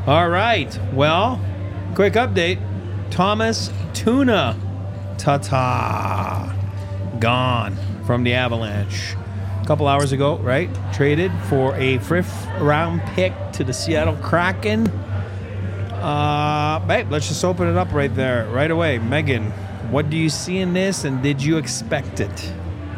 All right. Well, quick update. Thomas Tuna Tatar gone from the Avalanche. A couple hours ago, right? Traded for a fifth round pick to the Seattle Kraken. Babe, let's just open it up right there, right away. Megan, what do you see in this, and did you expect it?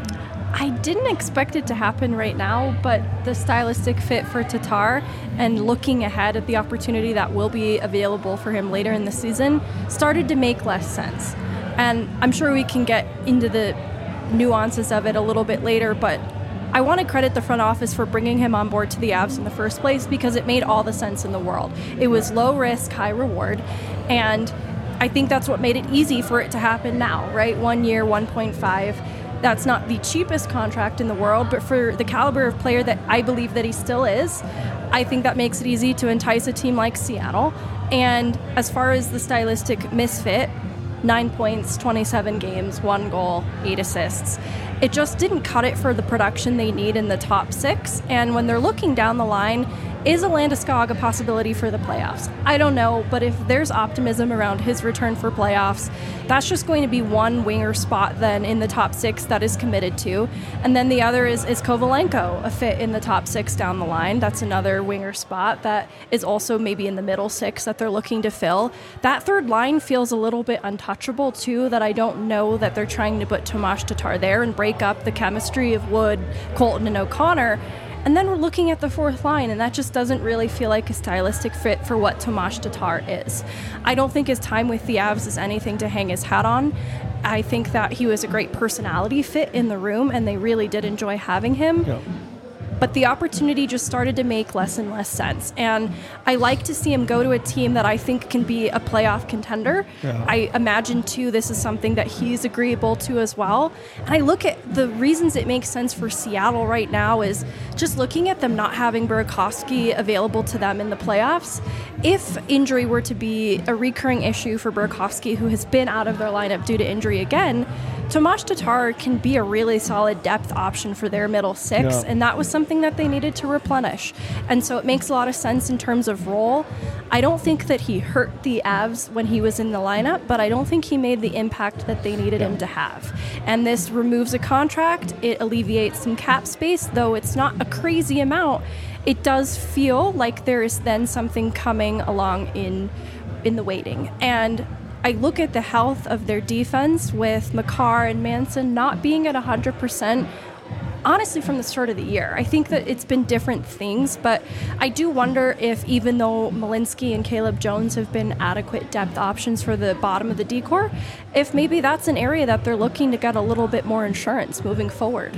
I didn't expect it to happen right now, but the stylistic fit for Tatar and looking ahead at the opportunity that will be available for him later in the season started to make less sense. And I'm sure we can get into the nuances of it a little bit later, but I want to credit the front office for bringing him on board to the Avs in the first place because it made all the sense in the world. It was low risk, high reward, and I think that's what made it easy for it to happen now, right? 1 year, 1.5. That's not the cheapest contract in the world, but for the caliber of player that I believe that he still is, I think that makes it easy to entice a team like Seattle. And as far as the stylistic misfit, 9 points, 27 games, 1 goal, 8 assists. It just didn't cut it for the production they need in the top 6. And when they're looking down the line, is a Landeskog a possibility for the playoffs? I don't know, but if there's optimism around his return for playoffs, that's just going to be one winger spot then in the top 6 that is committed to. And then the other is Kovalenko, a fit in the top 6 down the line. That's another winger spot that is also maybe in the middle 6 that they're looking to fill. That third line feels a little bit untouchable too, that I don't know that they're trying to put Tomas Tatar there and break up the chemistry of Wood, Colton, and O'Connor. And then we're looking at the fourth line, and that just doesn't really feel like a stylistic fit for what Tomas Tatar is. I don't think his time with the Avs is anything to hang his hat on. I think that he was a great personality fit in the room, and they really did enjoy having him. Yeah. But the opportunity just started to make less and less sense. And I like to see him go to a team that I think can be a playoff contender. Yeah. I imagine, too, this is something that he's agreeable to as well. And I look at the reasons it makes sense for Seattle right now is just looking at them not having Burakovsky available to them in the playoffs. If injury were to be a recurring issue for Burakovsky, who has been out of their lineup due to injury again, Tomas Tatar can be a really solid depth option for their middle 6, and that was something that they needed to replenish. And so it makes a lot of sense in terms of role. I don't think that he hurt the Avs when he was in the lineup, but I don't think he made the impact that they needed him to have. And this removes a contract. It alleviates some cap space, though it's not a crazy amount. It does feel like there is then something coming along in the waiting. And I look at the health of their defense with Makar and Manson not being at 100%, honestly, from the start of the year. I think that it's been different things, but I do wonder if even though Malinsky and Caleb Jones have been adequate depth options for the bottom of the D-core, if maybe that's an area that they're looking to get a little bit more insurance moving forward.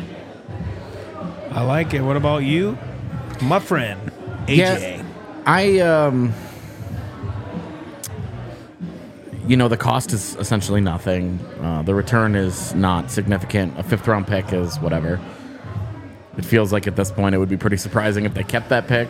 I like it. What about you, my friend, AJ? Yeah, the cost is essentially nothing. The return is not significant. A fifth-round pick is whatever. It feels like at this point it would be pretty surprising if they kept that pick,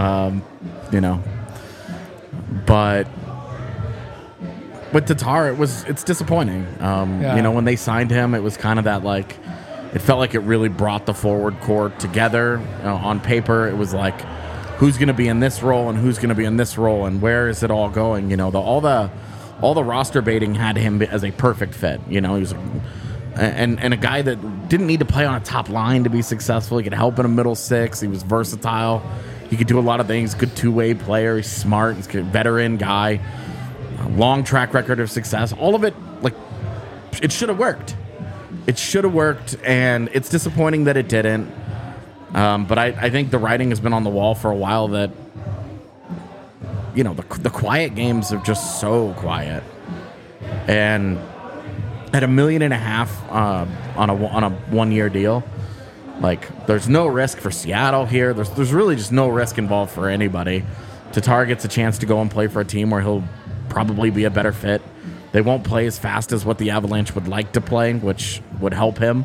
But with Tatar, it's disappointing. When they signed him, it was kind of that like, it felt like it really brought the forward core together. On paper, it was like, who's going to be in this role and who's going to be in this role and where is it all going? All the roster baiting had him as a perfect fit. He was and a guy that didn't need to play on a top line to be successful. He could help in a middle 6. He was versatile. He could do a lot of things. Good two-way player. He's smart. He's a veteran guy. A long track record of success. All of it, it should have worked. It should have worked, and it's disappointing that it didn't. But I think the writing has been on the wall for a while that the quiet games are just so quiet, and at $1.5 million on a 1-year deal, there's no risk for Seattle here. There's really just no risk involved for anybody. Tatar gets a chance to go and play for a team where he'll probably be a better fit. They won't play as fast as what the Avalanche would like to play, which would help him.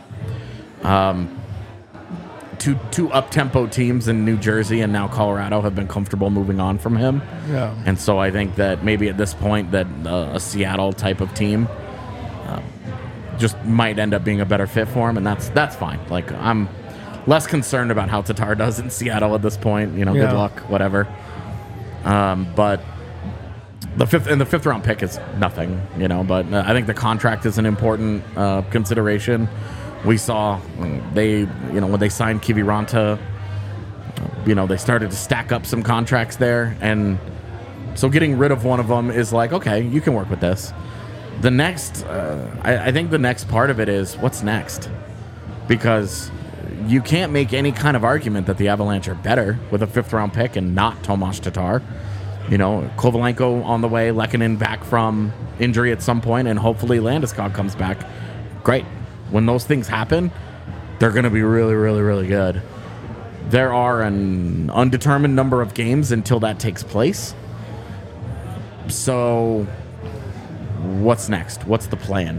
Two up-tempo teams in New Jersey and now Colorado have been comfortable moving on from him. Yeah. And so I think that maybe at this point that a Seattle type of team just might end up being a better fit for him, and that's fine. I'm less concerned about how Tatar does in Seattle at this point. Good luck, whatever. But the fifth round pick is nothing, But I think the contract is an important consideration. We saw when they signed Kiviranta, they started to stack up some contracts there, and so getting rid of one of them is like, okay, you can work with this. The next, I think the next part of it is what's next, because you can't make any kind of argument that the Avalanche are better with a 5th round pick and not Tomas Tatar. Kovalenko on the way, Lehkonen back from injury at some point, and hopefully Landeskog comes back. Great. When those things happen, they're going to be really, really, really good. There are an undetermined number of games until that takes place. So what's next? What's the plan?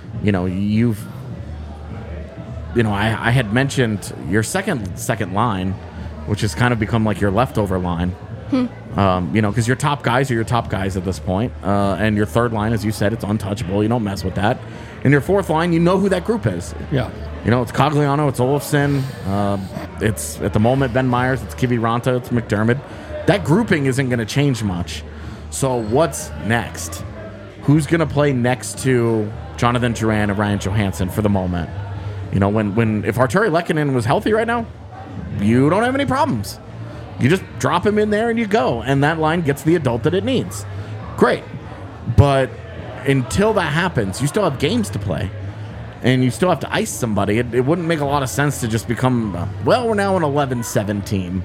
I had mentioned your second line, which has kind of become like your leftover line. Because your top guys are your top guys at this point. And your third line, as you said, it's untouchable. You don't mess with that. And your fourth line, you know who that group is. Yeah. It's Cogliano, it's Olofsson, it's at the moment Ben Myers, it's Kiviranta, it's McDermott. That grouping isn't going to change much. So what's next? Who's going to play next to Jonathan Drouin and Ryan Johansson for the moment? If Arturi Lehkonen was healthy right now, you don't have any problems. You just drop him in there and you go, and that line gets the adult that it needs. Great. But until that happens, you still have games to play, and you still have to ice somebody. It wouldn't make a lot of sense to just become, we're now an 11-7 team.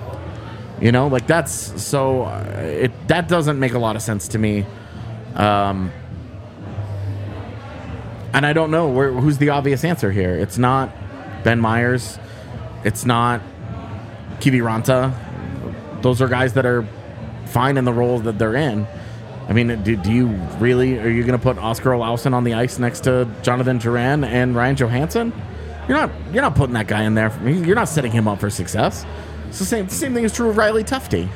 That doesn't make a lot of sense to me. And I don't know who's the obvious answer here. It's not Ben Myers. It's not Kiviranta. Those are guys that are fine in the roles that they're in. I mean, do you really? Are you going to put Oscar Olausson on the ice next to Jonathan Drouin and Ryan Johansson? You're not putting that guy in there. You're not setting him up for success. It's the same thing is true of Riley Tufte.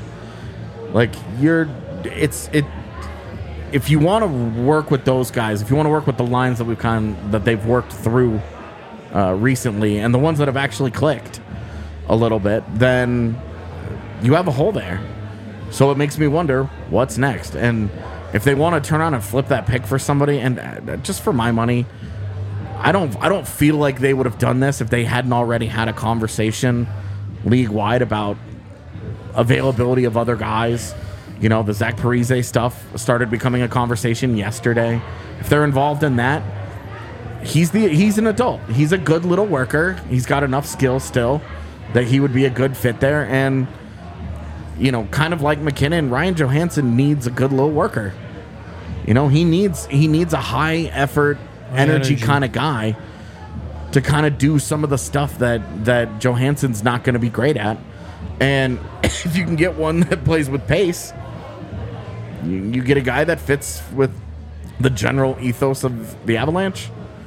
If you want to work with those guys, if you want to work with the lines that they've worked through recently, and the ones that have actually clicked a little bit, then you have a hole there. So it makes me wonder what's next. And if they want to turn around and flip that pick for somebody, and just for my money, I don't feel like they would have done this if they hadn't already had a conversation league-wide about availability of other guys. The Zach Parise stuff started becoming a conversation yesterday. If they're involved in that, he's an adult. He's a good little worker. He's got enough skill still that he would be a good fit there. And, kind of like McKinnon, Ryan Johansson needs a good little worker. He needs a high effort, energy kind of guy to kind of do some of the stuff that Johansson's not going to be great at. And if you can get one that plays with pace, you get a guy that fits with the general ethos of the Avalanche.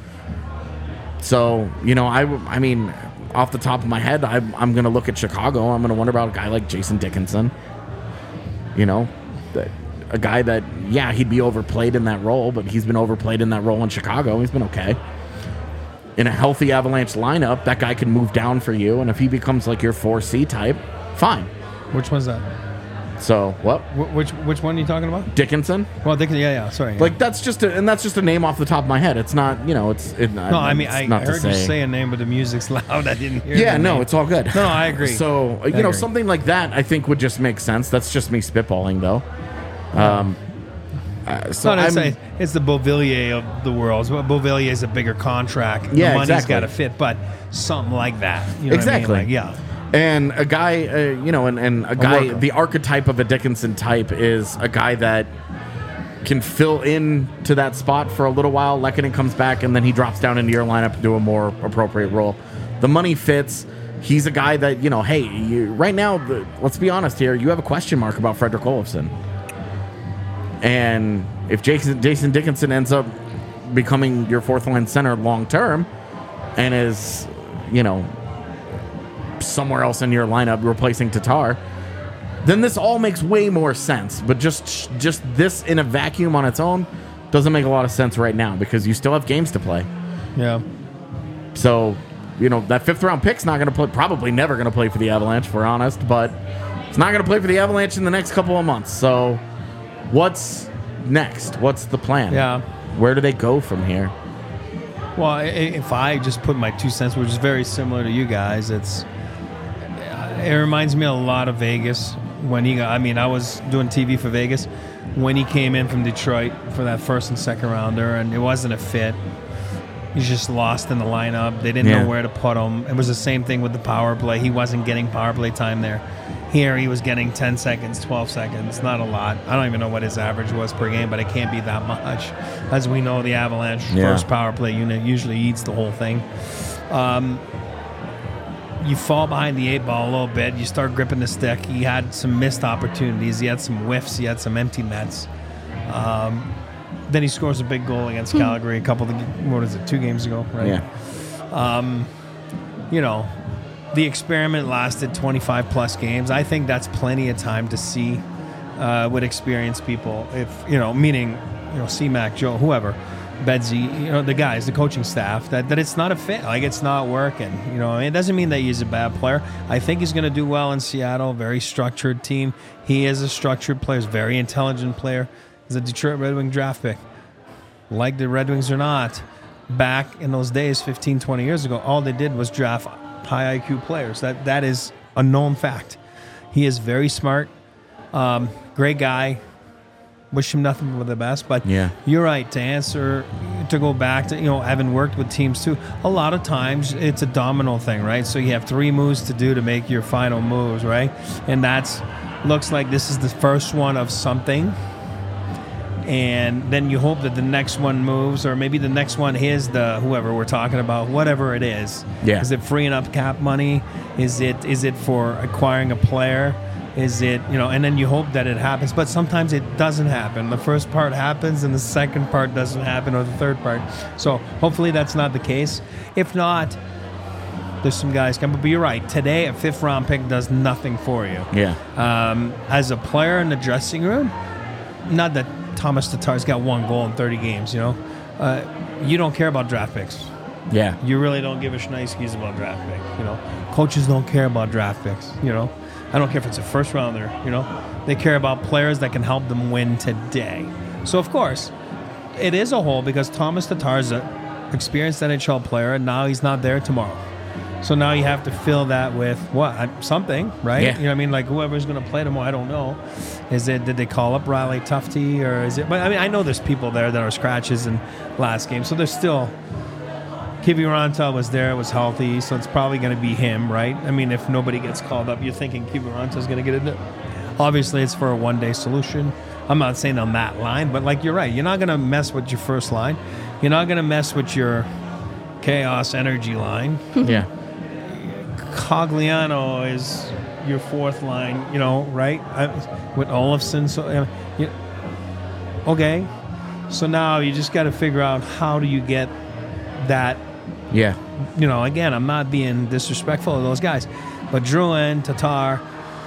So, I mean, off the top of my head, I'm going to look at Chicago. I'm going to wonder about a guy like Jason Dickinson. A guy that, he'd be overplayed in that role, but he's been overplayed in that role in Chicago. He's been okay. In a healthy Avalanche lineup, that guy can move down for you, and if he becomes like your 4C type, fine. Which one's that? So what? Which one are you talking about? Dickinson. Well, Dickinson. Yeah. Sorry. Like that's just a name off the top of my head. It's not. I heard you say a name, but the music's loud. I didn't hear. Yeah. No, it's all good. No, I agree. So I agree. Something like that, I think would just make sense. That's just me spitballing, though. It's the Beauvillier of the world. Beauvillier is a bigger contract. Yeah, the money's exactly. got to fit, but something like that. You know exactly. What I mean? Like, yeah. And a guy, and a guy, the archetype of a Dickinson type is a guy that can fill in to that spot for a little while. Lehkonen comes back, and then he drops down into your lineup to do a more appropriate role. The money fits. He's a guy that, right now, let's be honest here, you have a question mark about Fredrik Olofsson. And if Jason Dickinson ends up becoming your fourth-line center long-term and is, somewhere else in your lineup replacing Tatar, then this all makes way more sense. But just this in a vacuum on its own doesn't make a lot of sense right now because you still have games to play. Yeah. So, that 5th round pick's not going to play, probably never going to play for the Avalanche, if we're honest, but He's not going to play for the Avalanche in the next couple of months. So what's next? What's the plan? Yeah. Where do they go from here? Well, if I just put my 2 cents, which is very similar to you guys, it reminds me a lot of Vegas when he got. I mean, I was doing TV for Vegas when he came in from Detroit for that first and second rounder, and it wasn't a fit. He's just lost in the lineup. They didn't know where to put him. It was the same thing with the power play. He wasn't getting power play time there. Here, he was getting 10 seconds, 12 seconds. Not a lot. I don't even know what his average was per game, but it can't be that much. As we know, the Avalanche first power play unit usually eats the whole thing. You fall behind the 8 ball a little bit. You start gripping the stick. He had some missed opportunities. He had some whiffs. He had some empty nets. Then he scores a big goal against Calgary 2 games ago, right? Yeah. You know, the experiment lasted 25-plus games. I think that's plenty of time to see with experienced people. If, meaning, C-Mac, Joe, whoever, Bedsy, the guys, the coaching staff, that it's not a fit. Like, it's not working. It doesn't mean that he's a bad player. I think he's going to do well in Seattle. Very structured team. He is a structured player. He's a very intelligent player. He's a Detroit Red Wing draft pick. Like the Red Wings or not, back in those days, 15, 20 years ago, all they did was draft high IQ players. That is a known fact. He is very smart, great guy. Wish him nothing but the best. But you're right, to go back to, having worked with teams too, a lot of times it's a domino thing, right? So you have 3 moves to do to make your final moves, right? And looks like this is the first one of something. And then you hope that the next one moves, or maybe the next one is whoever we're talking about, whatever it is. Yeah. Is it freeing up cap money? Is it for acquiring a player? Is it, and then you hope that it happens. But sometimes it doesn't happen. The first part happens and the second part doesn't happen, or the third part. So hopefully that's not the case. If not, there's some guys coming. But you're right. Today, a 5th-round pick does nothing for you. Yeah. As a player in the dressing room, not that Thomas Tatar's got 1 goal in 30 games, you don't care about draft picks. Yeah. You really don't give a schneizkies about draft picks, Coaches don't care about draft picks, I don't care if it's a first rounder, They care about players that can help them win today. So, of course, it is a hole because Thomas Tatar's an experienced NHL player, and now he's not there tomorrow. So now you have to fill that with something, right? Yeah. You know what I mean? Like whoever's going to play tomorrow, I don't know. Did they call up Riley Tufte, or is it? But I mean, I know there's people there that are scratches in last game, so there's still. Kiviranta was there, was healthy, so it's probably going to be him, right? I mean, if nobody gets called up, you're thinking Kiviranta's going to get it done. Obviously, it's for a one-day solution. I'm not saying on that line, but like you're right. You're not going to mess with your first line. You're not going to mess with your chaos energy line. Yeah. Cogliano is your 4th line, right? With Olofsson. So, okay. So now you just got to figure out how do you get that. Yeah. Again, I'm not being disrespectful of those guys, but Drouin, Tatar,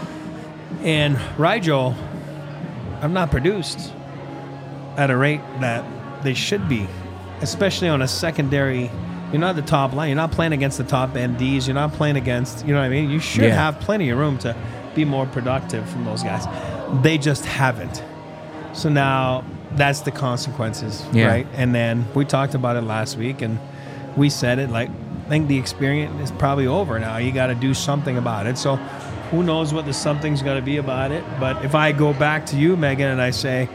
and Rigel have not produced at a rate that they should be, especially on a secondary. You're not the top line. You're not playing against the top MDs. You're not playing against, what I mean? You should have plenty of room to be more productive from those guys. They just haven't. So now that's the consequences, right? And then we talked about it last week, and we said it, like, I think the experience is probably over now. You got to do something about it. So who knows what the something's going to be about it. But if I go back to you, Megan, and I say,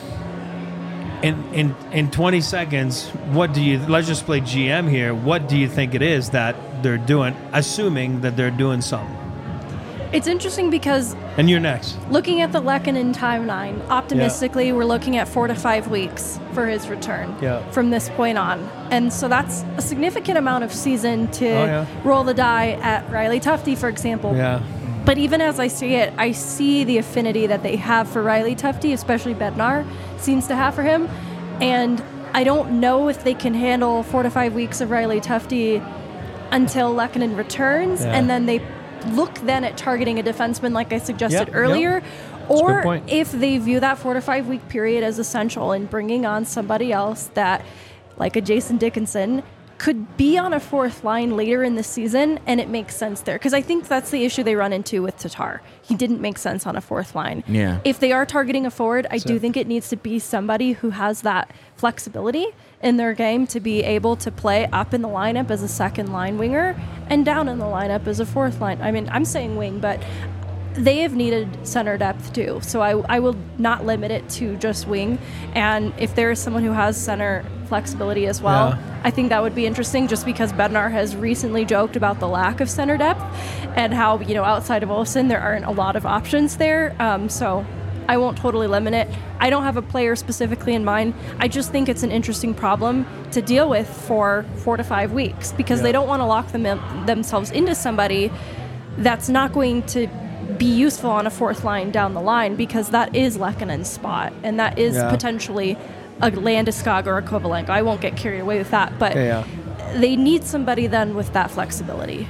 in 20 seconds, let's just play GM here. What do you think it is that they're doing, assuming that they're doing something? It's interesting because... And you're next. Looking at the Lehkonen timeline, optimistically, we're looking at 4 to 5 weeks for his return from this point on. And so that's a significant amount of season to roll the die at Riley Tufte, for example. Yeah. But even as I see it, I see the affinity that they have for Riley Tufte, especially Bednar seems to have for him. And I don't know if they can handle 4 to 5 weeks of Riley Tufte until Lehkonen returns, and then they look then at targeting a defenseman like I suggested earlier, or if they view that 4 to 5 week period as essential in bringing on somebody else that, like a Jason Dickinson, could be on a fourth line later in the season, and it makes sense there. Because I think that's the issue they run into with Tatar. He didn't make sense on a fourth line. Yeah. If they are targeting a forward, I do think it needs to be somebody who has that flexibility in their game to be able to play up in the lineup as a second line winger and down in the lineup as a fourth line. I mean, I'm saying wing, but they have needed center depth too. So I will not limit it to just wing. And if there is someone who has center flexibility as well, I think that would be interesting, just because Bednar has recently joked about the lack of center depth and how, outside of Olsen, there aren't a lot of options there. So I won't totally limit it. I don't have a player specifically in mind. I just think it's an interesting problem to deal with for 4 to 5 weeks, because they don't want to lock themselves into somebody that's not going to be useful on a fourth line down the line, because that is Lehkonen's spot, and that is potentially a Landeskog or a Kovalenko. I won't get carried away with that, but they need somebody then with that flexibility.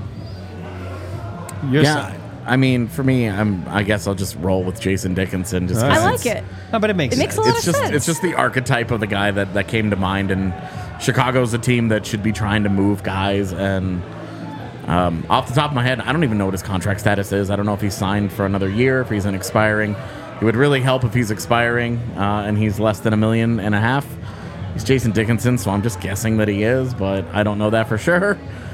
Your side. I mean, for me, I guess I'll just roll with Jason Dickinson. Just I like it. No, but it makes a sense. lot of sense. It's just the archetype of the guy that came to mind, and Chicago's a team that should be trying to move guys. And off the top of my head, I don't even know what his contract status is. I don't know if he's signed for another year, if he's an expiring. It would really help if he's expiring and he's less than $1.5 million. He's Jason Dickinson, so I'm just guessing that he is, but I don't know that for sure.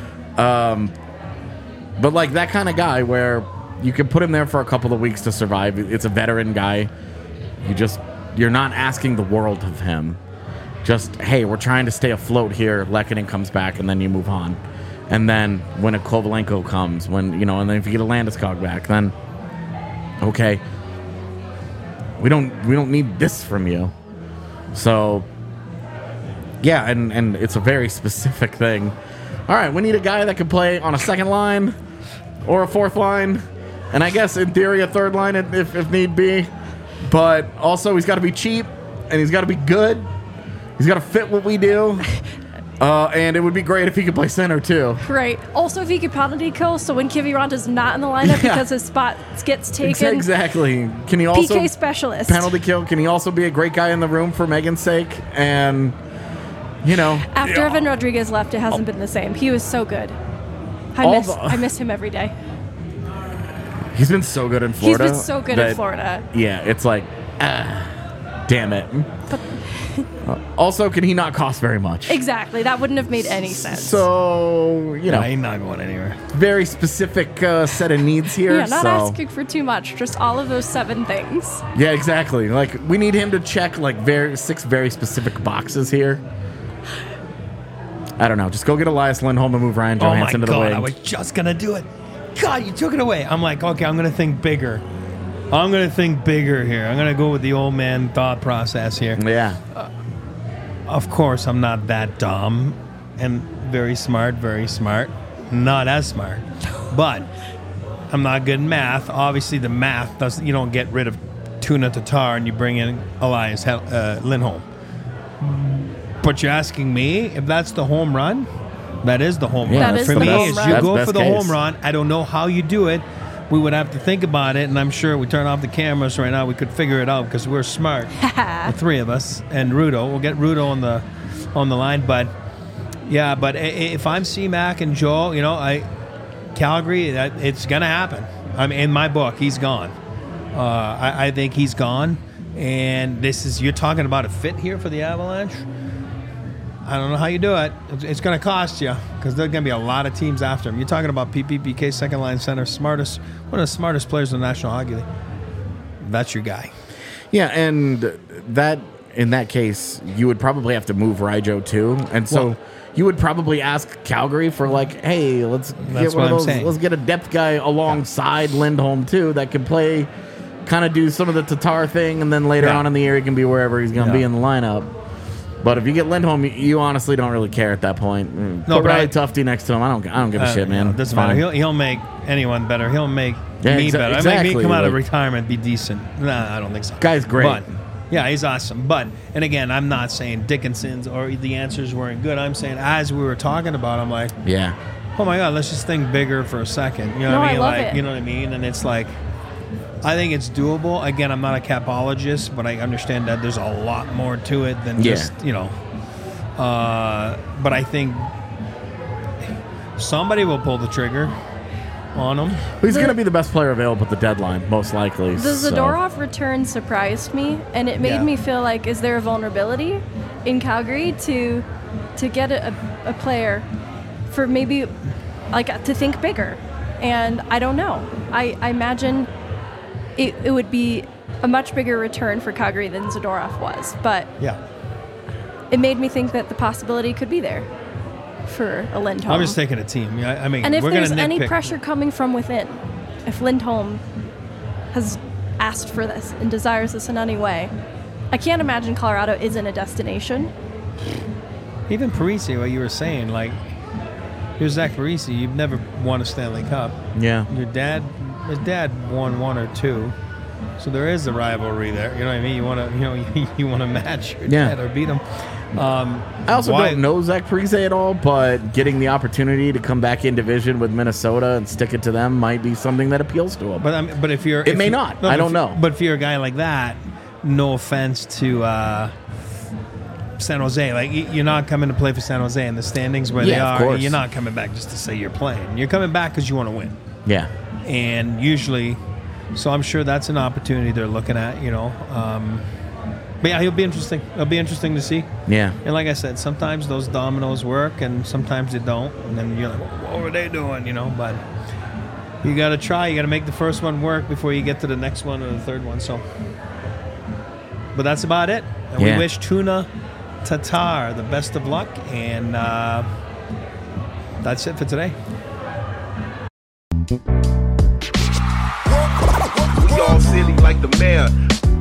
But like that kind of guy where you can put him there for a couple of weeks to survive. It's a veteran guy. You're not asking the world of him. Just, hey, we're trying to stay afloat here. Lehkonen comes back, and then you move on. And then when a Kovalenko comes, and then if you get a Landeskog back, then okay, we don't need this from you. So yeah, and it's a very specific thing. All right, we need a guy that can play on a second line or a fourth line, and I guess in theory a third line if need be. But also he's got to be cheap, and he's got to be good. He's got to fit what we do. And it would be great if he could play center too. Right. Also, if he could penalty kill, so when Kiviranta is not in the lineup because his spot gets taken. Exactly. Can he also PK specialist penalty kill? Can he also be a great guy in the room for Megan's sake? And after Evan Rodriguez left, it hasn't been the same. He was so good. I miss him every day. He's been so good in Florida. He's been so good in Florida. Yeah, it's like, damn it. Also, can he not cost very much? Exactly. That wouldn't have made any sense. So, he's not going anywhere. Very specific set of needs here. Yeah, not asking for too much. Just all of those 7 things. Yeah, exactly. Like, we need him to check, 6 very specific boxes here. I don't know. Just go get Elias Lindholm and move Ryan Johansson to the wing. I was just going to do it. God, you took it away. I'm like, okay, I'm going to think bigger. I'm going to think bigger here. I'm going to go with the old man thought process here. Yeah. Of course, I'm not that dumb and very smart. Not as smart. But I'm not good in math. Obviously, the math doesn't. You don't get rid of Tuna Tatar and you bring in Elias Lindholm. But you're asking me if that's the home run? That is the home run. For me, is you go for the home run. I don't know how you do it. We would have to think about it, and I'm sure we turn off the cameras right now. We could figure it out because we're smart, the 3 of us, and Rudo. We'll get Rudo on the line, but yeah. But if I'm C-Mac and Joel, Calgary, it's gonna happen. I mean, in my book, he's gone. I think he's gone, and you're talking about a fit here for the Avalanche. I don't know how you do it. It's going to cost you because there are going to be a lot of teams after him. You're talking about PK, second line center, one of the smartest players in the National Hockey League. That's your guy. Yeah, and that in that case, you would probably have to move Ryjo too, and so you would probably ask Calgary for hey, let's get one of those. Let's get a depth guy alongside Lindholm too that can play, kind of do some of the Tatar thing, and then later on in the year he can be wherever he's going to be in the lineup. But if you get Lindholm, you honestly don't really care at that point. No, but Riley Tufte next to him, I don't give a shit, man. It doesn't matter. He'll make anyone better. He'll make me better. Exactly. Make me come out of retirement, be decent. Nah, I don't think so. Guy's great. But, yeah, he's awesome. But, and again, I'm not saying Dickinson's or the answers weren't good. I'm saying as we were talking about, I'm like, oh my God, let's just think bigger for a second. You know what I mean? I love it. You know what I mean? And it's like, I think it's doable. Again, I'm not a capologist, but I understand that there's a lot more to it than just, But I think somebody will pull the trigger on him. He's going to be the best player available at the deadline, most likely. The Zadorov return surprised me, and it made me feel like, is there a vulnerability in Calgary to get a player for maybe like to think bigger? And I don't know. I imagine it would be a much bigger return for Calgary than Zadorov was, but it made me think that the possibility could be there for a Lindholm. I'm just taking a team. I mean, and if we're there's gonna any nitpick. pressure coming from within, if Lindholm has asked for this and desires this in any way, I can't imagine Colorado isn't a destination. Even Parise, what you were saying, like, you're Zach Parise, you've never won a Stanley Cup. Yeah. His dad won one or two, so there is a rivalry there. You know what I mean? You want to match your dad or beat him. I also don't know Zach Parise at all, but getting the opportunity to come back in division with Minnesota and stick it to them might be something that appeals to him. But if you're, it may not. I don't know. But if you're a guy like that, no offense to San Jose, like you're not coming to play for San Jose in the standings where they are. Course. You're not coming back just to say you're playing. You're coming back because you want to win. Yeah. And usually, so I'm sure that's an opportunity they're looking at. But yeah, he'll be interesting. It'll be interesting to see. Yeah. And like I said, sometimes those dominoes work and sometimes they don't. And then you're like, what were they doing? But you got to try. You got to make the first one work before you get to the next one or the third one. So, but that's about it. And we wish Tuna Tatar the best of luck. And that's it for today. We all silly like the mayor.